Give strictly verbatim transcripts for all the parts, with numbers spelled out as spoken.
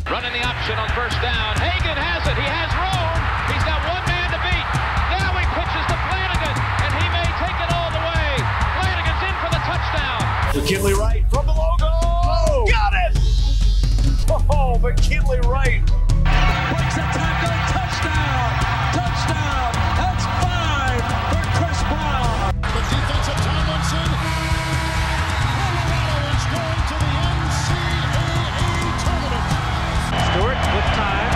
Running the option on first down. Hagan has it. He has room. He's got one man to beat. Now he pitches to Flanagan, and he may take it all the way. Flanagan's in for the touchdown. McKinley Wright from the logo. Oh, got it! Oh, McKinley Wright. Breaks a tackle. Touchdown. Touchdown. That's five for Chris Brown. The defensive Tomlinson. Colorado is going to the N C double A tournament. Stewart with time.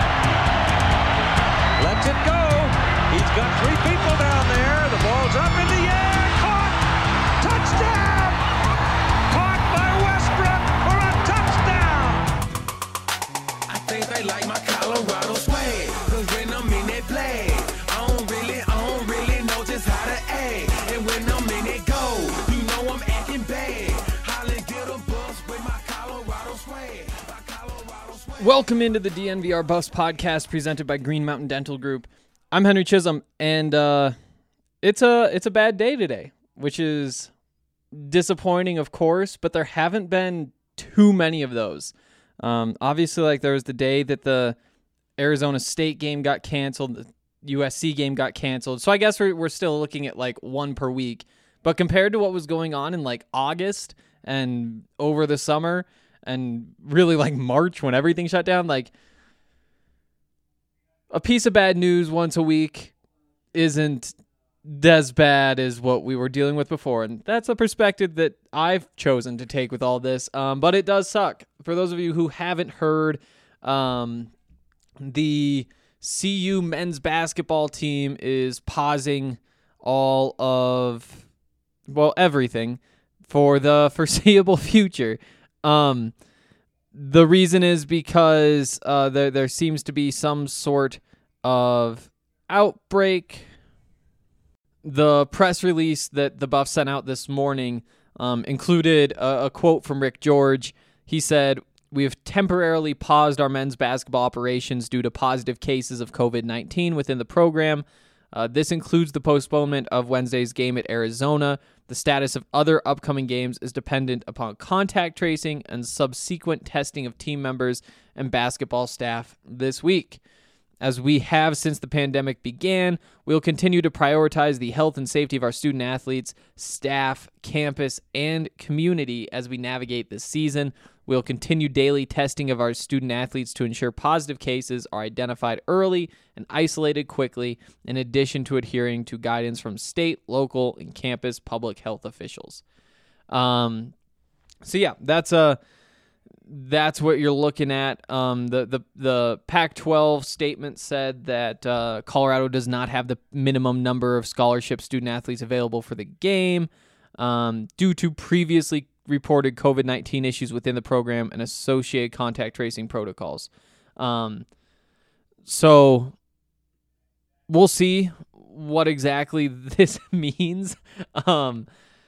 Lets it go. He's got three people down there. The ball's up in the air. Caught. Touchdown. Caught by Westbrook for a touchdown. I think they like my Colorado swag. Cause when I'm in that play, I don't really, I don't really know just how to act. And when I'm in it go, you know I'm acting bad. Holly get a bus with my Colorado swag. My Colorado swag. Welcome into the D N V R Buffs podcast presented by Green Mountain Dental Group. I'm Henry Chisholm, and uh, it's a it's a bad day today, which is disappointing, of course, but there haven't been too many of those. Um, obviously, like there was the day that the Arizona State game got canceled, the U S C game got canceled, so I guess we're we're still looking at like one per week. But compared to what was going on in like August and over the summer and really like March when everything shut down, like a piece of bad news once a week isn't as bad as what we were dealing with before. And that's a perspective that I've chosen to take with all this. Um, but it does suck. For those of you who haven't heard, um, the C U men's basketball team is pausing all of, well, everything for the foreseeable future. Um, the reason is because uh, there there seems to be some sort of outbreak. The press release that the Buffs sent out this morning um, included a, a quote from Rick George. He said, "We have temporarily paused our men's basketball operations due to positive cases of covid nineteen within the program. Uh, this includes the postponement of Wednesday's game at Arizona. The status of other upcoming games is dependent upon contact tracing and subsequent testing of team members and basketball staff this week. As we have since the pandemic began, we will continue to prioritize the health and safety of our student athletes, staff, campus, and community as we navigate this season. We'll continue daily testing of our student athletes to ensure positive cases are identified early and isolated quickly, in addition to adhering to guidance from state, local, and campus public health officials." Um, so yeah, that's a that's what you're looking at. Um, the the the Pac twelve statement said that uh, Colorado does not have the minimum number of scholarship student athletes available for the game um, due to previously reported covid nineteen issues within the program and associated contact tracing protocols. Um, so we'll see what exactly this means. Um,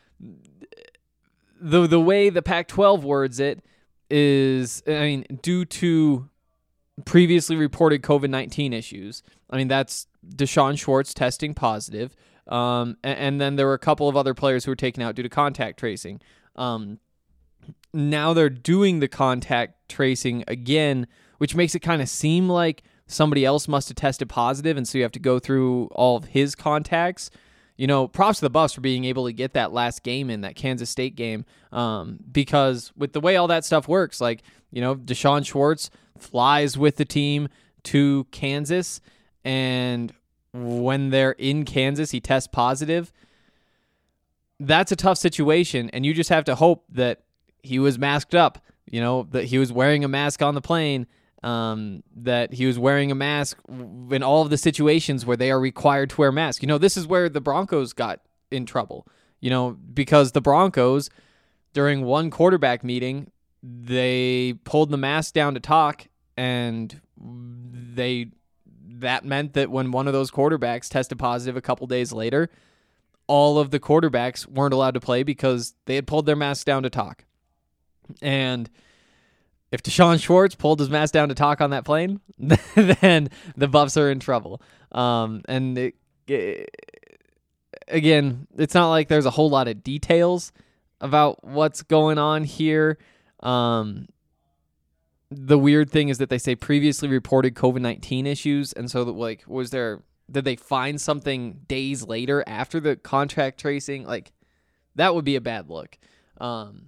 the the way the Pac twelve words it is, I mean, due to previously reported covid nineteen issues. I mean, that's Deshaun Schwartz testing positive. Um, and, and then there were a couple of other players who were taken out due to contact tracing. Um, now they're doing the contact tracing again, which makes it kind of seem like somebody else must have tested positive, and so you have to go through all of his contacts. You know, props to the Buffs for being able to get that last game in, that Kansas State game, um, because with the way all that stuff works, like, you know, Deshaun Schwartz flies with the team to Kansas, and when they're in Kansas, he tests positive. That's a tough situation, and you just have to hope that he was masked up, you know, that he was wearing a mask on the plane, um, that he was wearing a mask in all of the situations where they are required to wear masks. You know, this is where the Broncos got in trouble, you know, because the Broncos, during one quarterback meeting, they pulled the mask down to talk, and they that meant that when one of those quarterbacks tested positive a couple days later, all of the quarterbacks weren't allowed to play because they had pulled their masks down to talk. And if Deshaun Schwartz pulled his mask down to talk on that plane, then the Buffs are in trouble. Um, and it, it, again, it's not like there's a whole lot of details about what's going on here. Um, the weird thing is that they say previously reported COVID nineteen issues, and so that, like, was there did they find something days later after the contact tracing? Like, that would be a bad look. Um,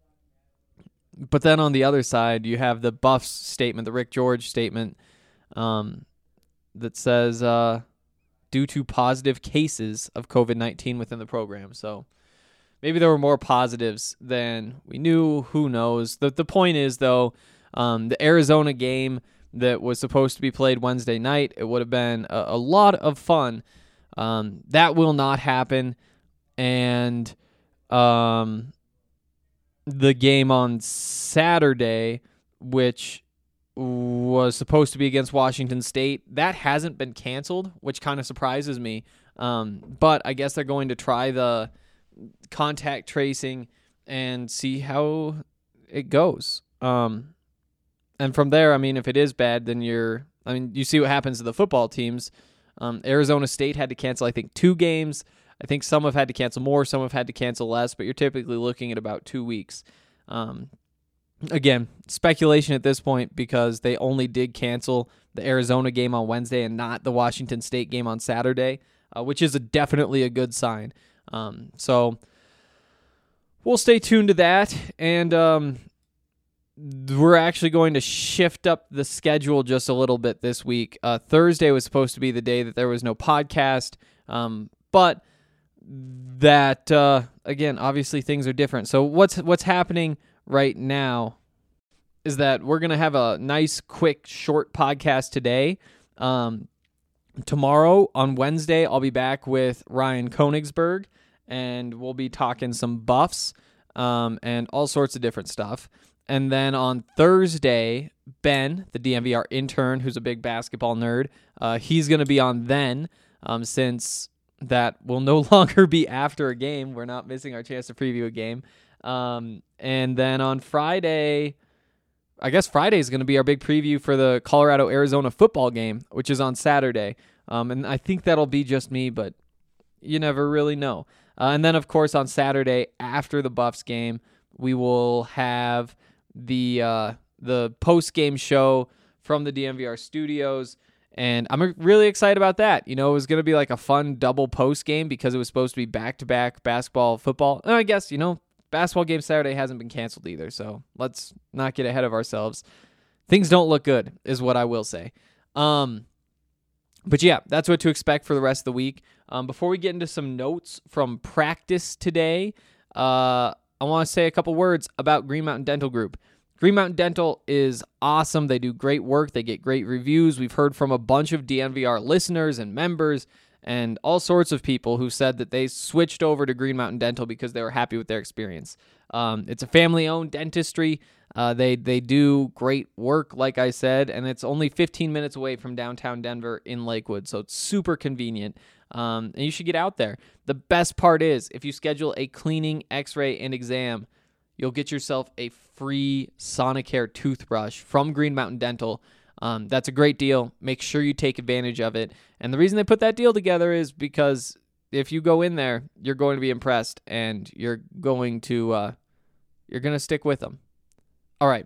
but then on the other side, you have the Buffs statement, the Rick George statement, um, that says uh, due to positive cases of COVID nineteen within the program. So maybe there were more positives than we knew. Who knows? The the point is, though, um, the Arizona game that was supposed to be played Wednesday night, it would have been a, a lot of fun. Um, that will not happen. And um, the game on Saturday, which was supposed to be against Washington State, that hasn't been canceled, which kind of surprises me. Um, but I guess they're going to try the contact tracing and see how it goes. Um, and from there, I mean, if it is bad, then you're, I mean, you see what happens to the football teams. Um, Arizona State had to cancel, I think, two games. I think some have had to cancel more, some have had to cancel less, but you're typically looking at about two weeks. Um, again, speculation at this point because they only did cancel the Arizona game on Wednesday and not the Washington State game on Saturday, uh, which is a, definitely a good sign. Um, so we'll stay tuned to that, and um, we're actually going to shift up the schedule just a little bit this week. Uh, Thursday was supposed to be the day that there was no podcast, um, but that uh, again, obviously things are different. So what's what's happening right now is that we're gonna have a nice, quick, short podcast today. Um, tomorrow on Wednesday, I'll be back with Ryan Konigsberg, and we'll be talking some Buffs um, and all sorts of different stuff. And then on Thursday, Ben, the D M V R intern, who's a big basketball nerd, uh, he's going to be on then, um, since that will no longer be after a game. We're not missing our chance to preview a game. Um, and then on Friday, I guess Friday is going to be our big preview for the Colorado-Arizona football game, which is on Saturday. Um, and I think that'll be just me, but you never really know. Uh, and then, of course, on Saturday, after the Buffs game, we will have the uh, the post-game show from the D M V R studios, and I'm really excited about that. You know, it was going to be like a fun double post-game because it was supposed to be back-to-back basketball, football. And I guess, you know, basketball game Saturday hasn't been canceled either, so let's not get ahead of ourselves. Things don't look good, is what I will say. Um, but yeah, that's what to expect for the rest of the week. Um, before we get into some notes from practice today, uh, I want to say a couple words about Green Mountain Dental Group. Green Mountain Dental is awesome. They do great work. They get great reviews. We've heard from a bunch of D N V R listeners and members and all sorts of people who said that they switched over to Green Mountain Dental because they were happy with their experience. Um, it's a family-owned dentistry. Uh, they they do great work, like I said, and it's only fifteen minutes away from downtown Denver in Lakewood, so it's super convenient. Um, and you should get out there. The best part is, if you schedule a cleaning, x-ray, and exam, you'll get yourself a free Sonicare toothbrush from Green Mountain Dental. Um, that's a great deal. Make sure you take advantage of it. And the reason they put that deal together is because if you go in there, you're going to be impressed, and you're going to uh, you're going to stick with them. All right.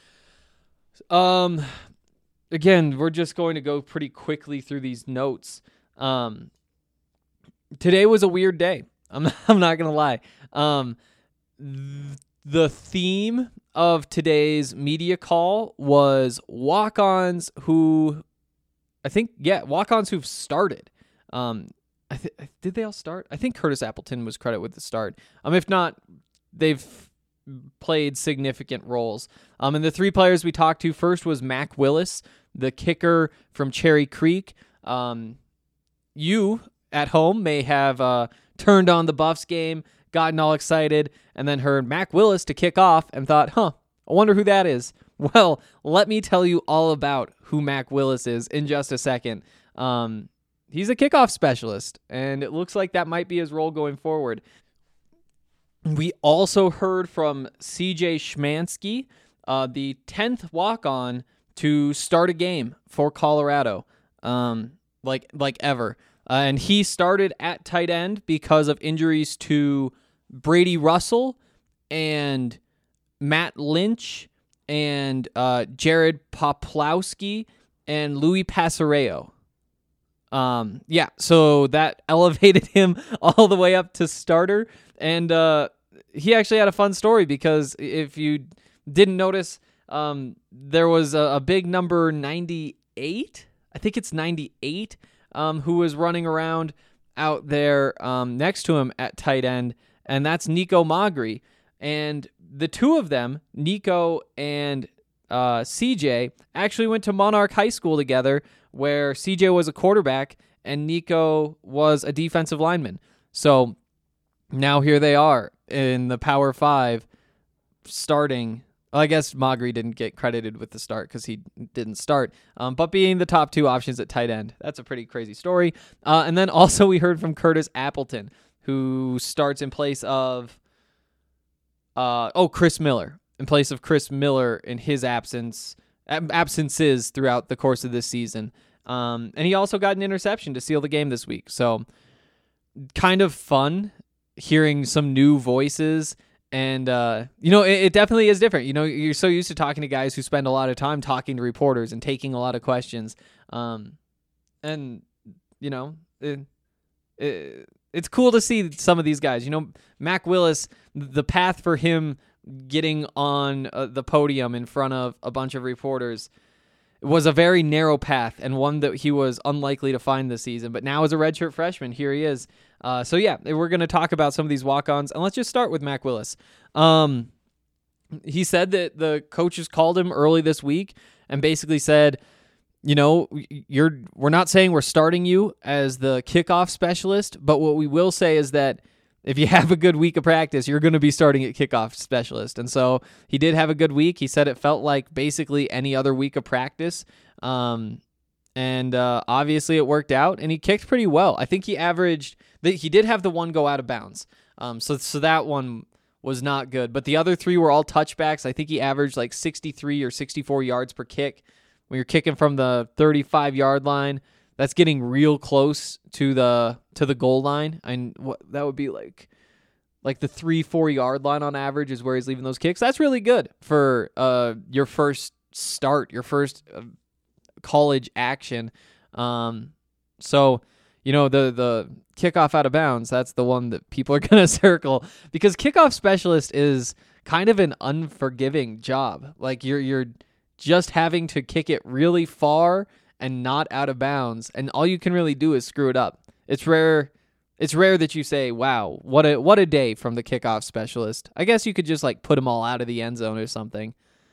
Um, again, we're just going to go pretty quickly through these notes. Um, today was a weird day. I'm not, I'm not going to lie. Um, th- the theme of today's media call was walk-ons who, I think, yeah, walk-ons who've started. Um, I th- did they all start? I think Curtis Appleton was credited with the start. Um, if not, they've played significant roles. Um, and the three players we talked to first was Mac Willis, the kicker from Cherry Creek. Um, you at home may have uh, turned on the Buffs game, gotten all excited, and then heard Mac Willis to kick off and thought, huh, I wonder who that is. Well, let me tell you all about who Mac Willis is in just a second. Um, he's a kickoff specialist, and it looks like that might be his role going forward. We also heard from C J Schmansky, uh, the tenth walk-on to start a game for Colorado, um, like like ever. Uh, and he started at tight end because of injuries to Brady Russell and Matt Lynch and uh, Jared Poplawski and Louis Pasareo. Um, yeah, so that elevated him all the way up to starter, and uh, he actually had a fun story because if you didn't notice, um, there was a, a big number ninety-eight, I think it's ninety-eight, um, who was running around out there um, next to him at tight end, and that's Nico Magri. And the two of them, Nico and uh, C J, actually went to Monarch High School together, where C J was a quarterback and Nico was a defensive lineman. So now here they are in the Power Five starting. Well, I guess Magri didn't get credited with the start because he didn't start, um, but being the top two options at tight end. That's a pretty crazy story. Uh, and then also we heard from Curtis Appleton, who starts in place of, uh, oh, Chris Miller, in place of Chris Miller in his absence, ab- absences throughout the course of this season. Um, and he also got an interception to seal the game this week. So kind of fun hearing some new voices. And, uh, you know, it, it definitely is different. You know, you're so used to talking to guys who spend a lot of time talking to reporters and taking a lot of questions. Um, and, you know, it, it, it's cool to see some of these guys. You know, Mac Willis, the path for him getting on uh, the podium in front of a bunch of reporters was a very narrow path and one that he was unlikely to find this season. But now as a redshirt freshman, here he is. Uh, so, yeah, we're going to talk about some of these walk-ons, and let's just start with Mac Willis. Um, he said that the coaches called him early this week and basically said, you know, you're we're not saying we're starting you as the kickoff specialist, but what we will say is that if you have a good week of practice, you're going to be starting at kickoff specialist. And so he did have a good week. He said it felt like basically any other week of practice. Um, and uh, obviously it worked out, and he kicked pretty well. I think he averaged, he did have the one go out of bounds. Um, so, so that one was not good. But the other three were all touchbacks. I think he averaged like sixty-three or sixty-four yards per kick. When you're kicking from the thirty-five yard line, that's getting real close to the to the goal line. And what that would be like, like the three four yard line on average is where he's leaving those kicks. That's really good for uh your first start, your first uh, college action. Um, so you know the the kickoff out of bounds. That's the one that people are gonna circle because kickoff specialist is kind of an unforgiving job. Like you're you're just having to kick it really far and not out of bounds, and all you can really do is screw it up. It's rare it's rare that you say, wow, what a what a day from the kickoff specialist. I guess you could just like put them all out of the end zone or something.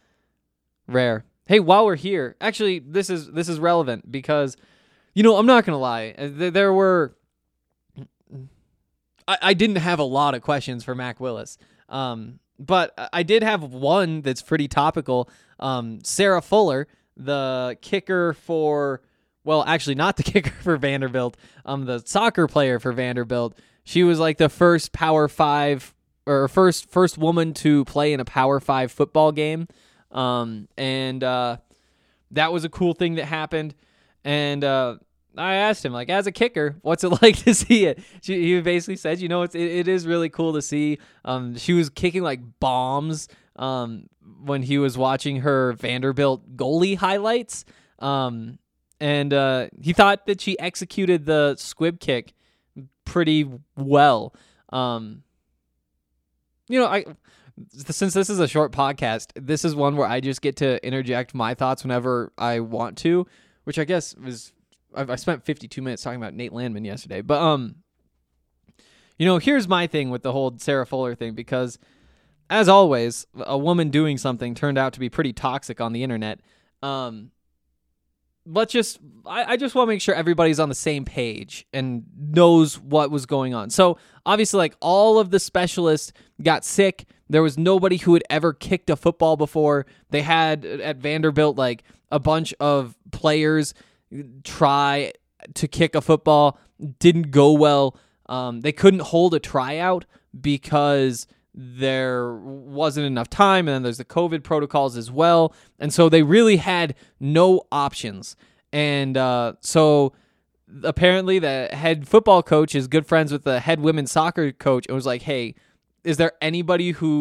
Rare. Hey, while we're here, actually this is this is relevant because, you know, I'm not gonna lie, there were I, I didn't have a lot of questions for Mac Willis. Um But I did have one that's pretty topical. Um, Sarah Fuller, the kicker for, well, actually not the kicker for Vanderbilt, um, the soccer player for Vanderbilt. She was like the first Power Five or first first woman to play in a Power Five football game, um, and uh, that was a cool thing that happened. And uh, I asked him, like, as a kicker, what's it like to see it? She, he basically said, you know, it's, it, it is really cool to see. Um, she was kicking, like, bombs um, when he was watching her Vanderbilt goalie highlights. Um, and uh, he thought that she executed the squib kick pretty well. Um, you know, I since this is a short podcast, this is one where I just get to interject my thoughts whenever I want to, which I guess was... I spent fifty-two minutes talking about Nate Landman yesterday, but um, you know, here's my thing with the whole Sarah Fuller thing, because as always, a woman doing something turned out to be pretty toxic on the internet. Um, let's just, I, I just want to make sure everybody's on the same page and knows what was going on. So obviously, like all of the specialists got sick. There was nobody who had ever kicked a football before. They had at Vanderbilt like a bunch of players try to kick a football, didn't go well. Um, they couldn't hold a tryout because there wasn't enough time, and then there's the COVID protocols as well, and so they really had no options. And uh, so apparently the head football coach is good friends with the head women's soccer coach and was like, hey, is there anybody who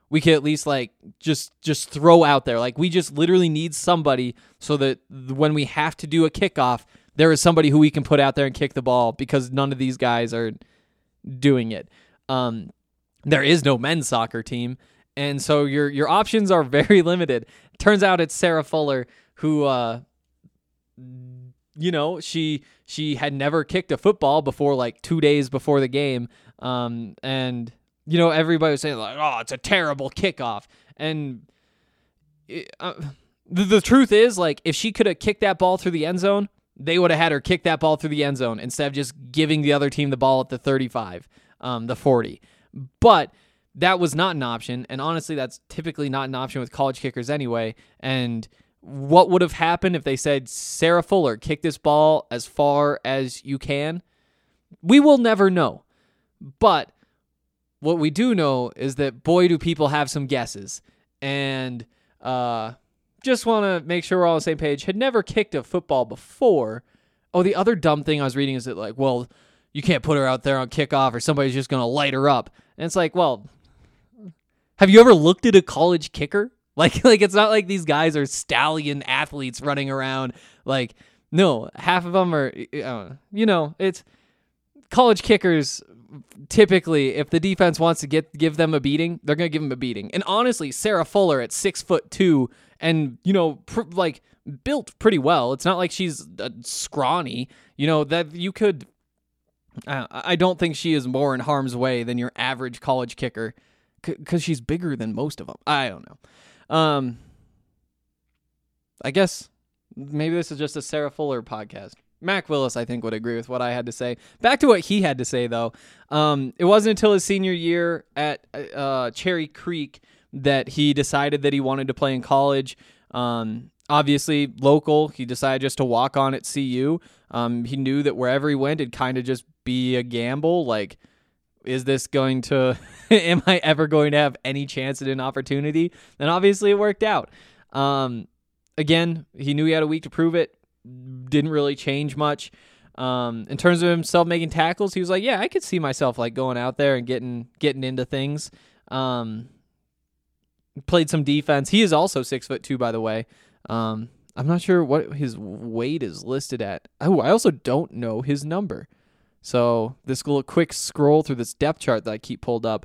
we could at least like just just throw out there. Like we just literally need somebody so that when we have to do a kickoff, there is somebody who we can put out there and kick the ball because none of these guys are doing it. Um, there is no men's soccer team, and so your your options are very limited. Turns out it's Sarah Fuller who, uh, you know, she she had never kicked a football before like two days before the game, um, and you know everybody was saying like, "Oh, it's a terrible kickoff," and it, uh, the, the truth is like if she could have kicked that ball through the end zone, they would have had her kick that ball through the end zone instead of just giving the other team the ball at the thirty-five, um, the forty. But that was not an option, and honestly, that's typically not an option with college kickers anyway. And what would have happened if they said, Sarah Fuller, kick this ball as far as you can? We will never know. But what we do know is that, boy, do people have some guesses. And uh, just want to make sure we're all on the same page. Had never kicked a football before. Oh, the other dumb thing I was reading is that, like, well, you can't put her out there on kickoff or somebody's just going to light her up. And it's like, well, have you ever looked at a college kicker? Like, like it's not like these guys are stallion athletes running around. Like, no, half of them are, uh, you know, it's college kickers. Typically, if the defense wants to get give them a beating, they're gonna give them a beating. And honestly, Sarah Fuller at six foot two and you know, pr- like built pretty well. It's not like she's uh, scrawny. You know that you could. Uh, I don't think she is more in harm's way than your average college kicker, because she's bigger than most of them. I don't know. Um, I guess maybe this is just a Sarah Fuller podcast. Mac Willis, I think, would agree with what I had to say. Back to what he had to say, though. Um, it wasn't until his senior year at uh, Cherry Creek that he decided that he wanted to play in college. Um, obviously, local, he decided just to walk on at C U. Um, he knew that wherever he went, it'd kind of just be a gamble. Like, is this going to, am I ever going to have any chance at an opportunity? And obviously it worked out. Um, again, he knew he had a week to prove it. Didn't really change much. Um, in terms of himself making tackles, he was like, yeah, I could see myself like going out there and getting, getting into things. Um, played some defense. He is also six foot two, by the way. Um, I'm not sure what his weight is listed at. Oh, I also don't know his number. So this little quick scroll through this depth chart that I keep pulled up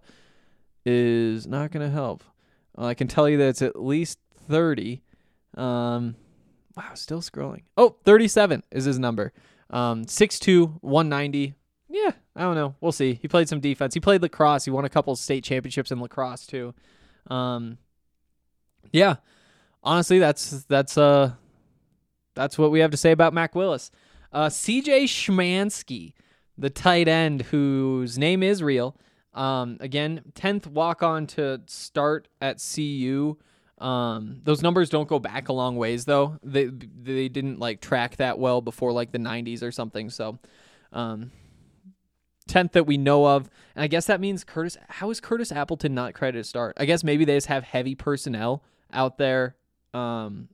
is not going to help. Well, I can tell you that it's at least thirty. Um, wow, still scrolling. Oh, thirty-seven is his number. Um, six two, one ninety. Yeah, I don't know. We'll see. He played some defense. He played lacrosse. He won a couple state championships in lacrosse too. Um, yeah, honestly, that's that's uh that's what we have to say about Mac Willis. Uh, C J Schmansky, the tight end whose name is real. Um, again, tenth walk-on to start at C U. Um, those numbers don't go back a long ways, though. They they didn't like track that well before like the nineties or something. So, um, tenth that we know of, and I guess that means Curtis. How is Curtis Appleton not credited to start? I guess maybe they just have heavy personnel out there. Um,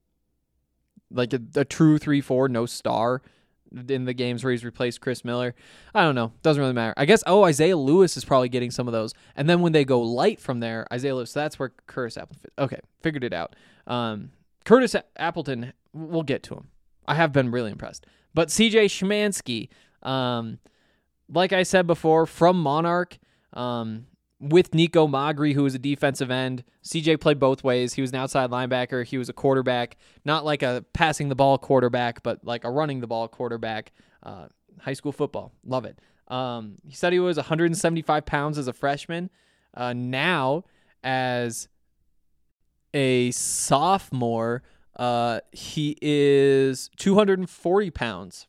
like a, a true three four, no star in the games where he's replaced Chris Miller. I don't know. Doesn't really matter. I guess, oh, Isaiah Lewis is probably getting some of those. And then when they go light from there, Isaiah Lewis, so that's where Curtis Appleton. Okay, figured it out. Um, Curtis Appleton, we'll get to him. I have been really impressed. But C J Schmansky, um, like I said before, from Monarch, um, with Nico Magri, who was a defensive end. C J played both ways. He was an outside linebacker. He was a quarterback, not like a passing the ball quarterback, but like a running the ball quarterback. Uh, high school football. Love it. Um, he said he was one hundred seventy-five pounds as a freshman. Uh, now, as a sophomore, uh, he is two hundred forty pounds.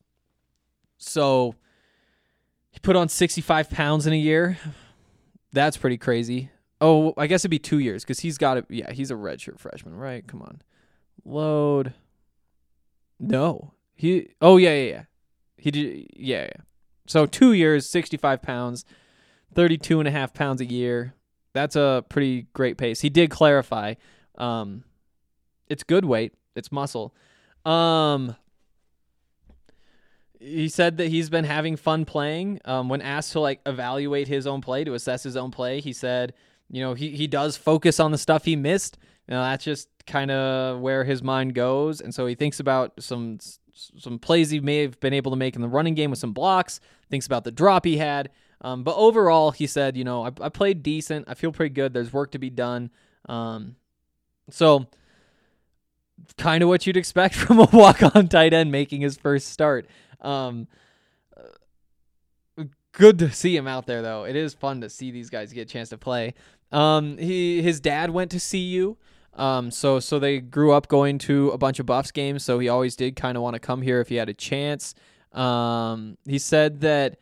So he put on sixty-five pounds in a year. That's pretty crazy. Oh, I guess it'd be two years because he's got it. Yeah, he's a redshirt freshman, right? Come on. Load. No. He. Oh, yeah, yeah, yeah. He did. Yeah, yeah. So two years, sixty-five pounds, thirty-two and a half pounds a year. That's a pretty great pace. He did clarify. Um, it's good weight. It's muscle. Um, He said that he's been having fun playing. Um, when asked to like evaluate his own play, to assess his own play, he said you know, he, he does focus on the stuff he missed. You know, that's just kind of where his mind goes. And so he thinks about some some plays he may have been able to make in the running game with some blocks, thinks about the drop he had. Um, but overall, he said, you know, I, I played decent. I feel pretty good. There's work to be done. Um, so kind of what you'd expect from a walk-on tight end making his first start. Um, good to see him out there, though. It is fun to see these guys get a chance to play. Um, he his dad went to C U. Um, so so they grew up going to a bunch of Buffs games, so he always did kind of want to come here if he had a chance. Um, he said that,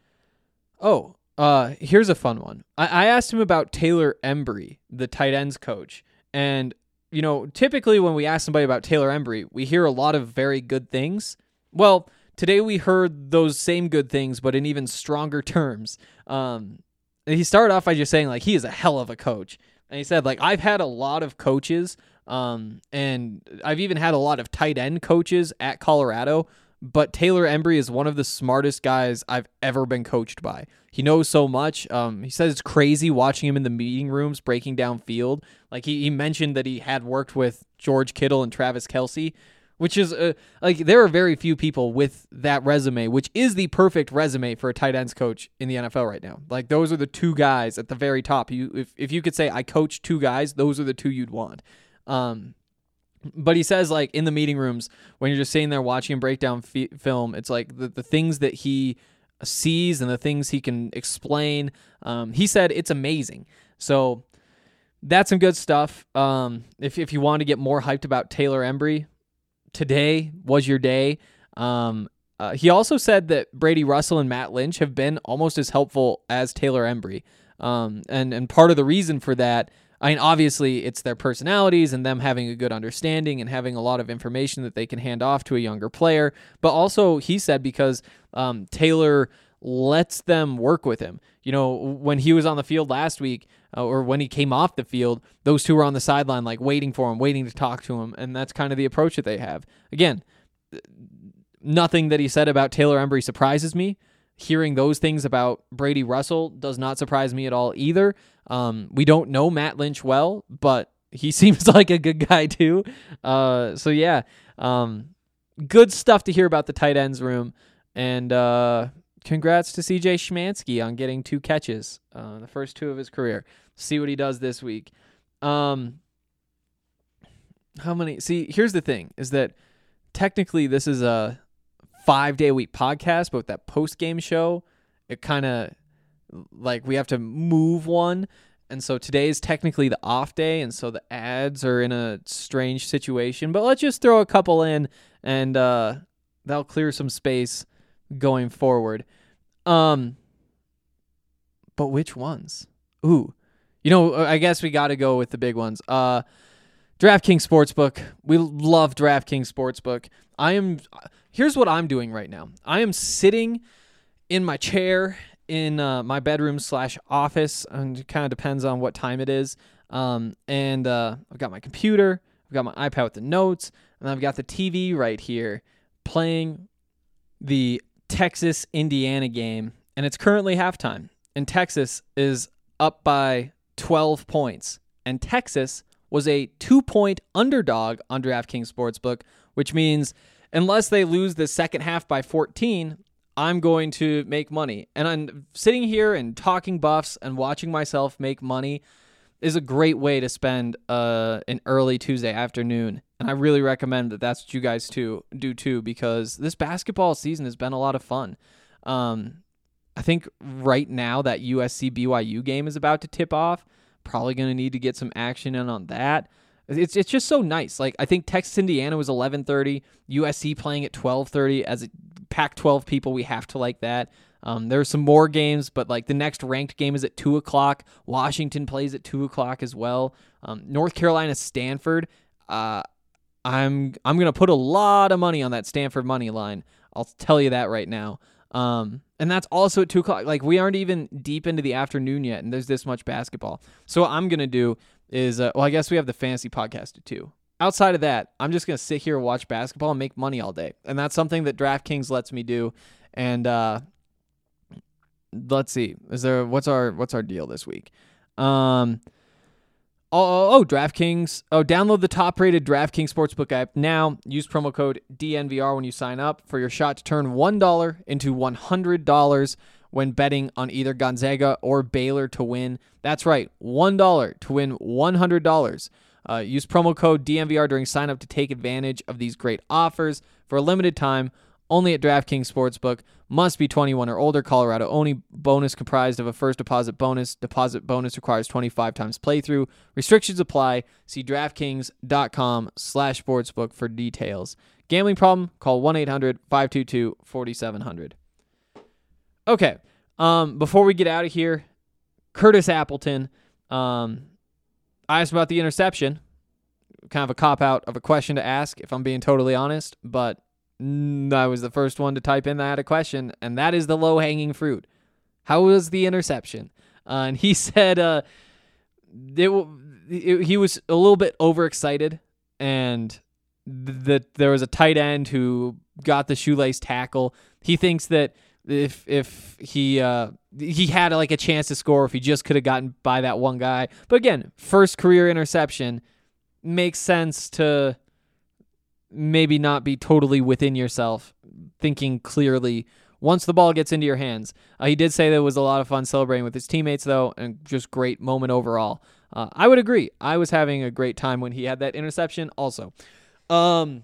oh, uh, here's a fun one. I, I asked him about Taylor Embry, the tight ends coach, and, you know, typically when we ask somebody about Taylor Embry, we hear a lot of very good things. Well, today we heard those same good things, but in even stronger terms. Um, and he started off by just saying, like, he is a hell of a coach. And he said, like, I've had a lot of coaches, um, and I've even had a lot of tight end coaches at Colorado, but Taylor Embry is one of the smartest guys I've ever been coached by. He knows so much. Um, he says it's crazy watching him in the meeting rooms breaking down field. Like, he, he mentioned that he had worked with George Kittle and Travis Kelce, which is, uh, like, there are very few people with that resume, which is the perfect resume for a tight ends coach in the N F L right now. Like, those are the two guys at the very top. You, if, if you could say, I coached two guys, those are the two you'd want. Um, but he says, like, in the meeting rooms, when you're just sitting there watching him break down fi- film, it's like the, the things that he sees and the things he can explain. Um, he said it's amazing. So that's some good stuff. Um, if, if you want to get more hyped about Taylor Embry, today was your day. Um, uh, he also said that Brady Russell and Matt Lynch have been almost as helpful as Taylor Embry. Um, and, and part of the reason for that, I mean, obviously it's their personalities and them having a good understanding and having a lot of information that they can hand off to a younger player. But also, he said, because um, Taylor lets them work with him. You know, when he was on the field last week, uh, or when he came off the field, those two were on the sideline, like, waiting for him, waiting to talk to him, and that's kind of the approach that they have. Again, nothing that he said about Taylor Embry surprises me. Hearing those things about Brady Russell does not surprise me at all either. Um, we don't know Matt Lynch well, but he seems like a good guy too. Uh, so yeah, um, good stuff to hear about the tight ends room, and uh, congrats to C J Schmansky on getting two catches, uh, the first two of his career. See what he does this week. Um, how many? See, here's the thing: is that technically this is a five-day-a-week podcast, but with that post-game show, it kind of, like, we have to move one, and so today is technically the off day, and so the ads are in a strange situation, but let's just throw a couple in, and uh, that'll clear some space going forward. Um, but which ones? Ooh, you know, I guess we got to go with the big ones. Uh, DraftKings Sportsbook. We love DraftKings Sportsbook. I am. Here's what I'm doing right now. I am sitting in my chair in uh, my bedroom slash office, and it kind of depends on what time it is. Um, and uh, I've got my computer, I've got my iPad with the notes, and I've got the T V right here playing the Texas-Indiana game, and it's currently halftime. And Texas is up by twelve points, and Texas was a two-point underdog on DraftKings Sportsbook, which means unless they lose the second half by fourteen, I'm going to make money. And I'm sitting here and talking Buffs and watching myself make money is a great way to spend uh, an early Tuesday afternoon. And I really recommend that that's what you guys too do too, because this basketball season has been a lot of fun. Um, I think right now that U S C B Y U game is about to tip off. Probably going to need to get some action in on that. It's it's just so nice. Like, I think Texas Indiana was eleven thirty, U S C playing at twelve thirty. As a Pac twelve people, we have to like that. Um, there are some more games, but like the next ranked game is at two o'clock. Washington plays at two o'clock as well. Um, North Carolina Stanford. Uh, I'm I'm gonna put a lot of money on that Stanford money line. I'll tell you that right now. Um, and that's also at two o'clock. Like, we aren't even deep into the afternoon yet, and there's this much basketball. So what I'm going to do is, uh, well, I guess we have the fantasy podcast too. Outside of that, I'm just going to sit here and watch basketball and make money all day. And that's something that DraftKings lets me do. And uh, let's see, is there, what's our, what's our deal this week? Um, oh, oh, oh, DraftKings. Oh, download the top-rated DraftKings Sportsbook app now. Use promo code D N V R when you sign up for your shot to turn one dollar into one hundred dollars when betting on either Gonzaga or Baylor to win. That's right, one dollar to win one hundred dollars. Uh, use promo code D N V R during sign-up to take advantage of these great offers for a limited time. Only at DraftKings Sportsbook. Must be twenty-one or older. Colorado only. Bonus comprised of a first deposit bonus. Deposit bonus requires twenty-five times playthrough. Restrictions apply. See DraftKings.com slash sportsbook for details. Gambling problem? Call one eight hundred five two two four seven zero zero. Okay. Um, before we get out of here, Curtis Appleton. Um, I asked about the interception. Kind of a cop-out of a question to ask, if I'm being totally honest, but I was the first one to type in that a question, and that is the low-hanging fruit. How was the interception? Uh, and he said uh, it, it, he was a little bit overexcited, and that th- there was a tight end who got the shoelace tackle. He thinks that if if he uh, he had like a chance to score if he just could have gotten by that one guy. But again, first career interception makes sense to maybe not be totally within yourself, thinking clearly once the ball gets into your hands. Uh, he did say that it was a lot of fun celebrating with his teammates, though, and just great moment overall. Uh, I would agree. I was having a great time when he had that interception also. Um,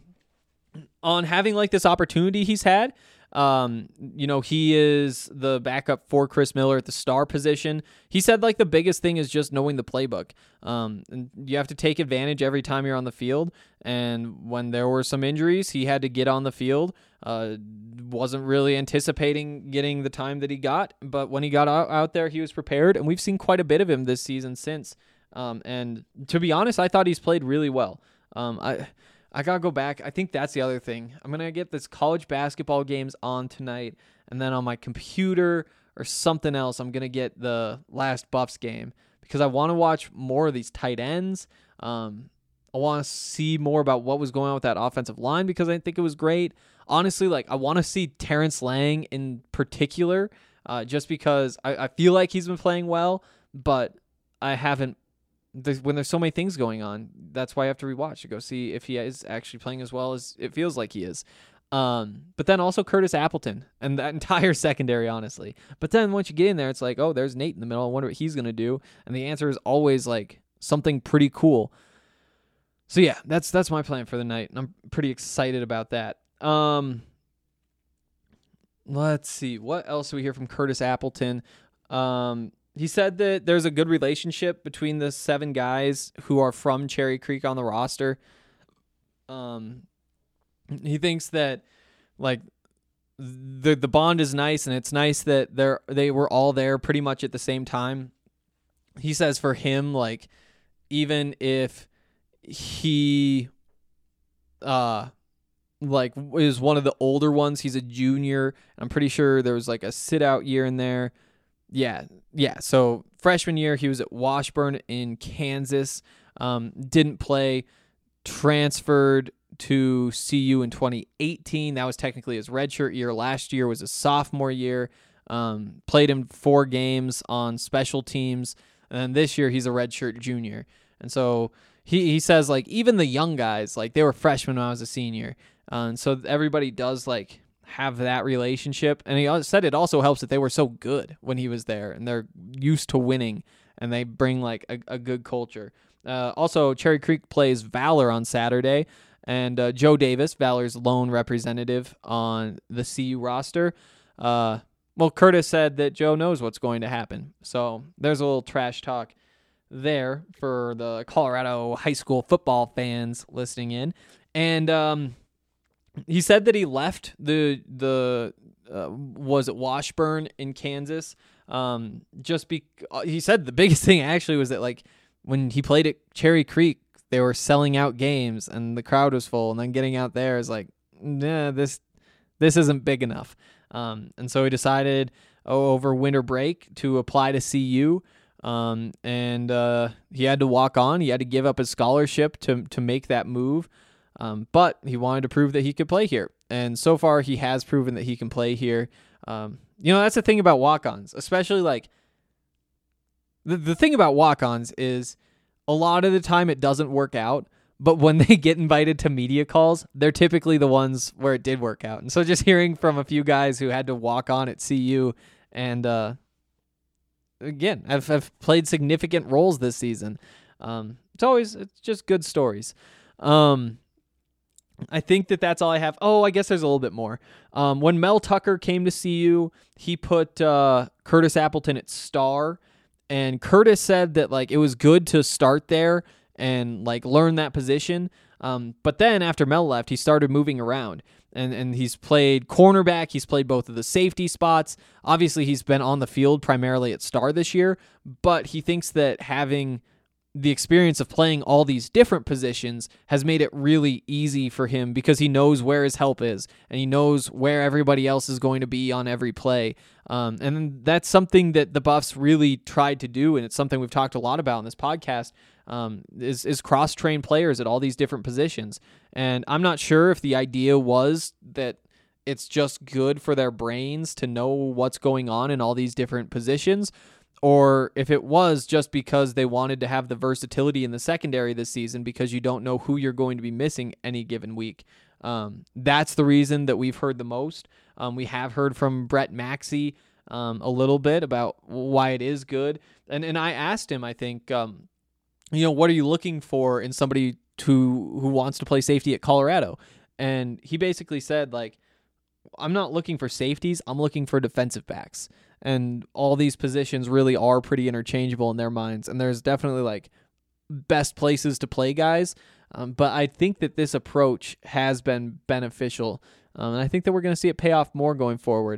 on having like this opportunity he's had, um, you know, he is the backup for Chris Miller at the star position. He said like the biggest thing is just knowing the playbook. Um, and you have to take advantage every time you're on the field. And when there were some injuries, he had to get on the field. Uh, wasn't really anticipating getting the time that he got, but when he got out, out there, he was prepared. And we've seen quite a bit of him this season since. Um, and to be honest, I thought he's played really well. Um, I, I gotta go back. I think that's the other thing. I'm gonna get this college basketball games on tonight, and then on my computer or something else, I'm gonna get the last Buffs game because I want to watch more of these tight ends. Um, I want to see more about what was going on with that offensive line because I think it was great. Honestly, like I want to see Terrence Lang in particular, uh, just because I, I feel like he's been playing well, but I haven't. There's, when there's so many things going on, that's why I have to rewatch to go see if he is actually playing as well as it feels like he is. Um, but then also Curtis Appleton and that entire secondary, honestly. But then once you get in there, it's like, oh, there's Nate in the middle. I wonder what he's going to do. And the answer is always like something pretty cool. So yeah, that's that's my plan for the night. And I'm pretty excited about that. Um, let's see. What else do we hear from Curtis Appleton? Um, He said that there's a good relationship between the seven guys who are from Cherry Creek on the roster. Um, he thinks that like the the bond is nice, and it's nice that they're they were all there pretty much at the same time. He says for him, like even if he uh like is one of the older ones, he's a junior. I'm pretty sure there was like a sit out year in there. Yeah, yeah. So freshman year, he was at Washburn in Kansas. Um, didn't play. Transferred to C U in twenty eighteen. That was technically his redshirt year. Last year was his sophomore year. Um, played in four games on special teams. And then this year, he's a redshirt junior. And so he, he says, like, even the young guys, like, they were freshmen when I was a senior. Uh, and so everybody does, like, have that relationship. And he said it also helps that they were so good when he was there and they're used to winning and they bring like a, a good culture. Uh, also, Cherry Creek plays Valor on Saturday, and uh, Joe Davis, Valor's lone representative on the C U roster. Uh, well, Curtis said that Joe knows what's going to happen. So there's a little trash talk there for the Colorado high school football fans listening in. And, um, he said that he left the the uh, was at Washburn in Kansas. Um, just be he said the biggest thing actually was that like when he played at Cherry Creek, they were selling out games and the crowd was full, and then getting out there is like, nah, this this isn't big enough. Um, and so he decided oh, over winter break to apply to C U. Um, and uh, he had to walk on. He had to give up his scholarship to to make that move. Um, but he wanted to prove that he could play here. And so far, he has proven that he can play here. Um, you know, that's the thing about walk-ons, especially like the, the thing about walk-ons is a lot of the time it doesn't work out, but when they get invited to media calls, they're typically the ones where it did work out. And so just hearing from a few guys who had to walk on at C U and, uh, again, I've, I've played significant roles this season. Um, it's always, it's just good stories. Um, I think that that's all I have. Oh, I guess there's a little bit more. Um, when Mel Tucker came to C U, he put uh, Curtis Appleton at star, and Curtis said that like it was good to start there and like learn that position. Um, but then after Mel left, he started moving around, and and he's played cornerback. He's played both of the safety spots. Obviously, he's been on the field primarily at star this year, but he thinks that having the experience of playing all these different positions has made it really easy for him because he knows where his help is and he knows where everybody else is going to be on every play. Um, and that's something that the Buffs really tried to do, and it's something we've talked a lot about in this podcast, um, is, is cross-train players at all these different positions. And I'm not sure if the idea was that it's just good for their brains to know what's going on in all these different positions, or if it was just because they wanted to have the versatility in the secondary this season because you don't know who you're going to be missing any given week. Um, that's the reason that we've heard the most. Um, we have heard from Brett Maxey um, a little bit about why it is good. And and I asked him, I think, um, you know, what are you looking for in somebody to, who wants to play safety at Colorado? And he basically said, like, I'm not looking for safeties. I'm looking for defensive backs. And all these positions really are pretty interchangeable in their minds. And there's definitely like best places to play guys. Um, but I think that this approach has been beneficial. Um, and I think that we're going to see it pay off more going forward.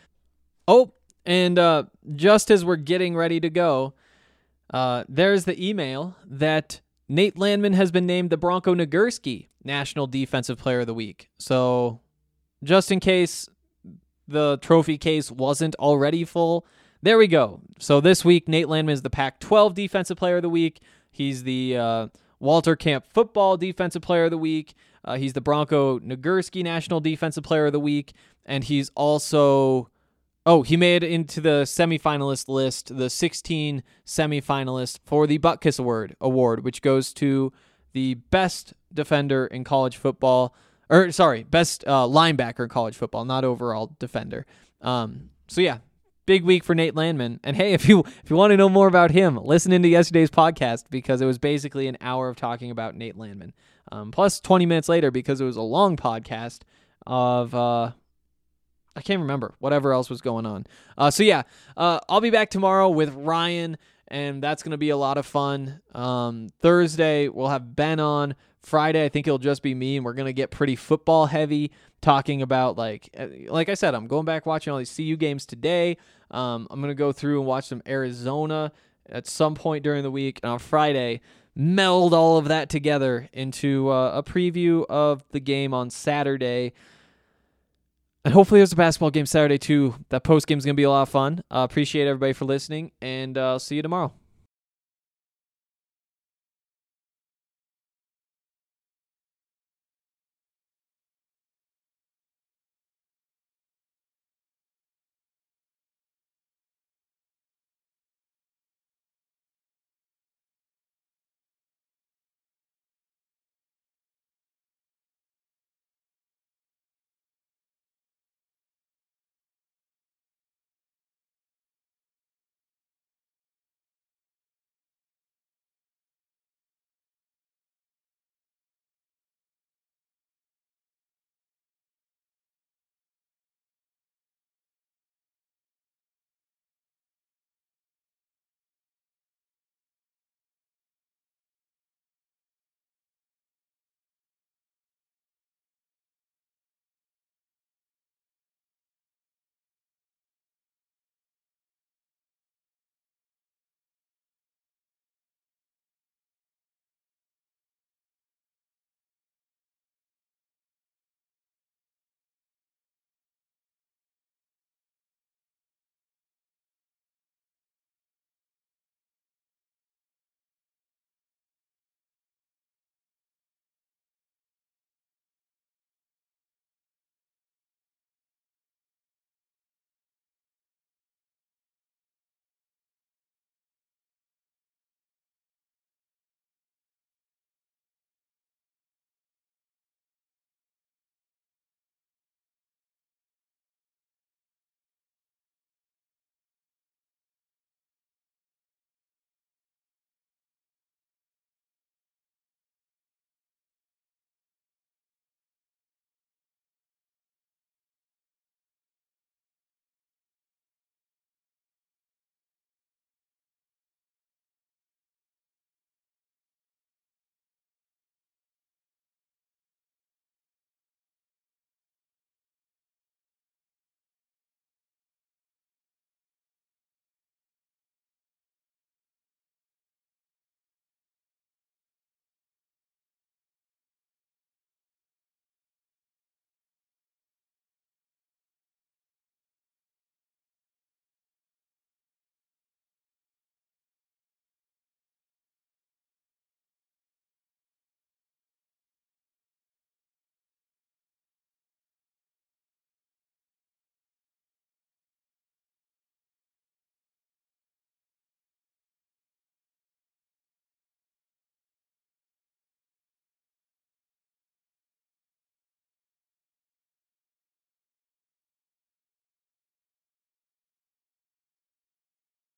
Oh, and uh, just as we're getting ready to go, uh, there's the email that Nate Landman has been named the Bronco Nagurski National Defensive Player of the Week. So just in case the trophy case wasn't already full, there we go. So this week, Nate Landman is the Pac twelve Defensive Player of the Week. He's the uh, Walter Camp Football Defensive Player of the Week. Uh, he's the Bronco Nagurski National Defensive Player of the Week. And he's also, oh, he made it into the semifinalist list, the sixteen semifinalists for the Butkus Award, award, which goes to the best defender in college football. Or, sorry, best uh, linebacker in college football, not overall defender. Um, so, yeah, big week for Nate Landman. And, hey, if you if you want to know more about him, listen into yesterday's podcast because it was basically an hour of talking about Nate Landman. Um, plus twenty minutes later because it was a long podcast of, uh, I can't remember, whatever else was going on. Uh, so, yeah, uh, I'll be back tomorrow with Ryan, and that's going to be a lot of fun. Um, Thursday, we'll have Ben on. Friday, I think it'll just be me, and we're going to get pretty football heavy, talking about, like, like I said, I'm going back watching all these C U games today. Um, I'm going to go through and watch some Arizona at some point during the week. And on Friday, meld all of that together into uh, a preview of the game on Saturday. And hopefully there's a basketball game Saturday, too. That post game is going to be a lot of fun. Uh, appreciate everybody for listening, and uh, see you tomorrow.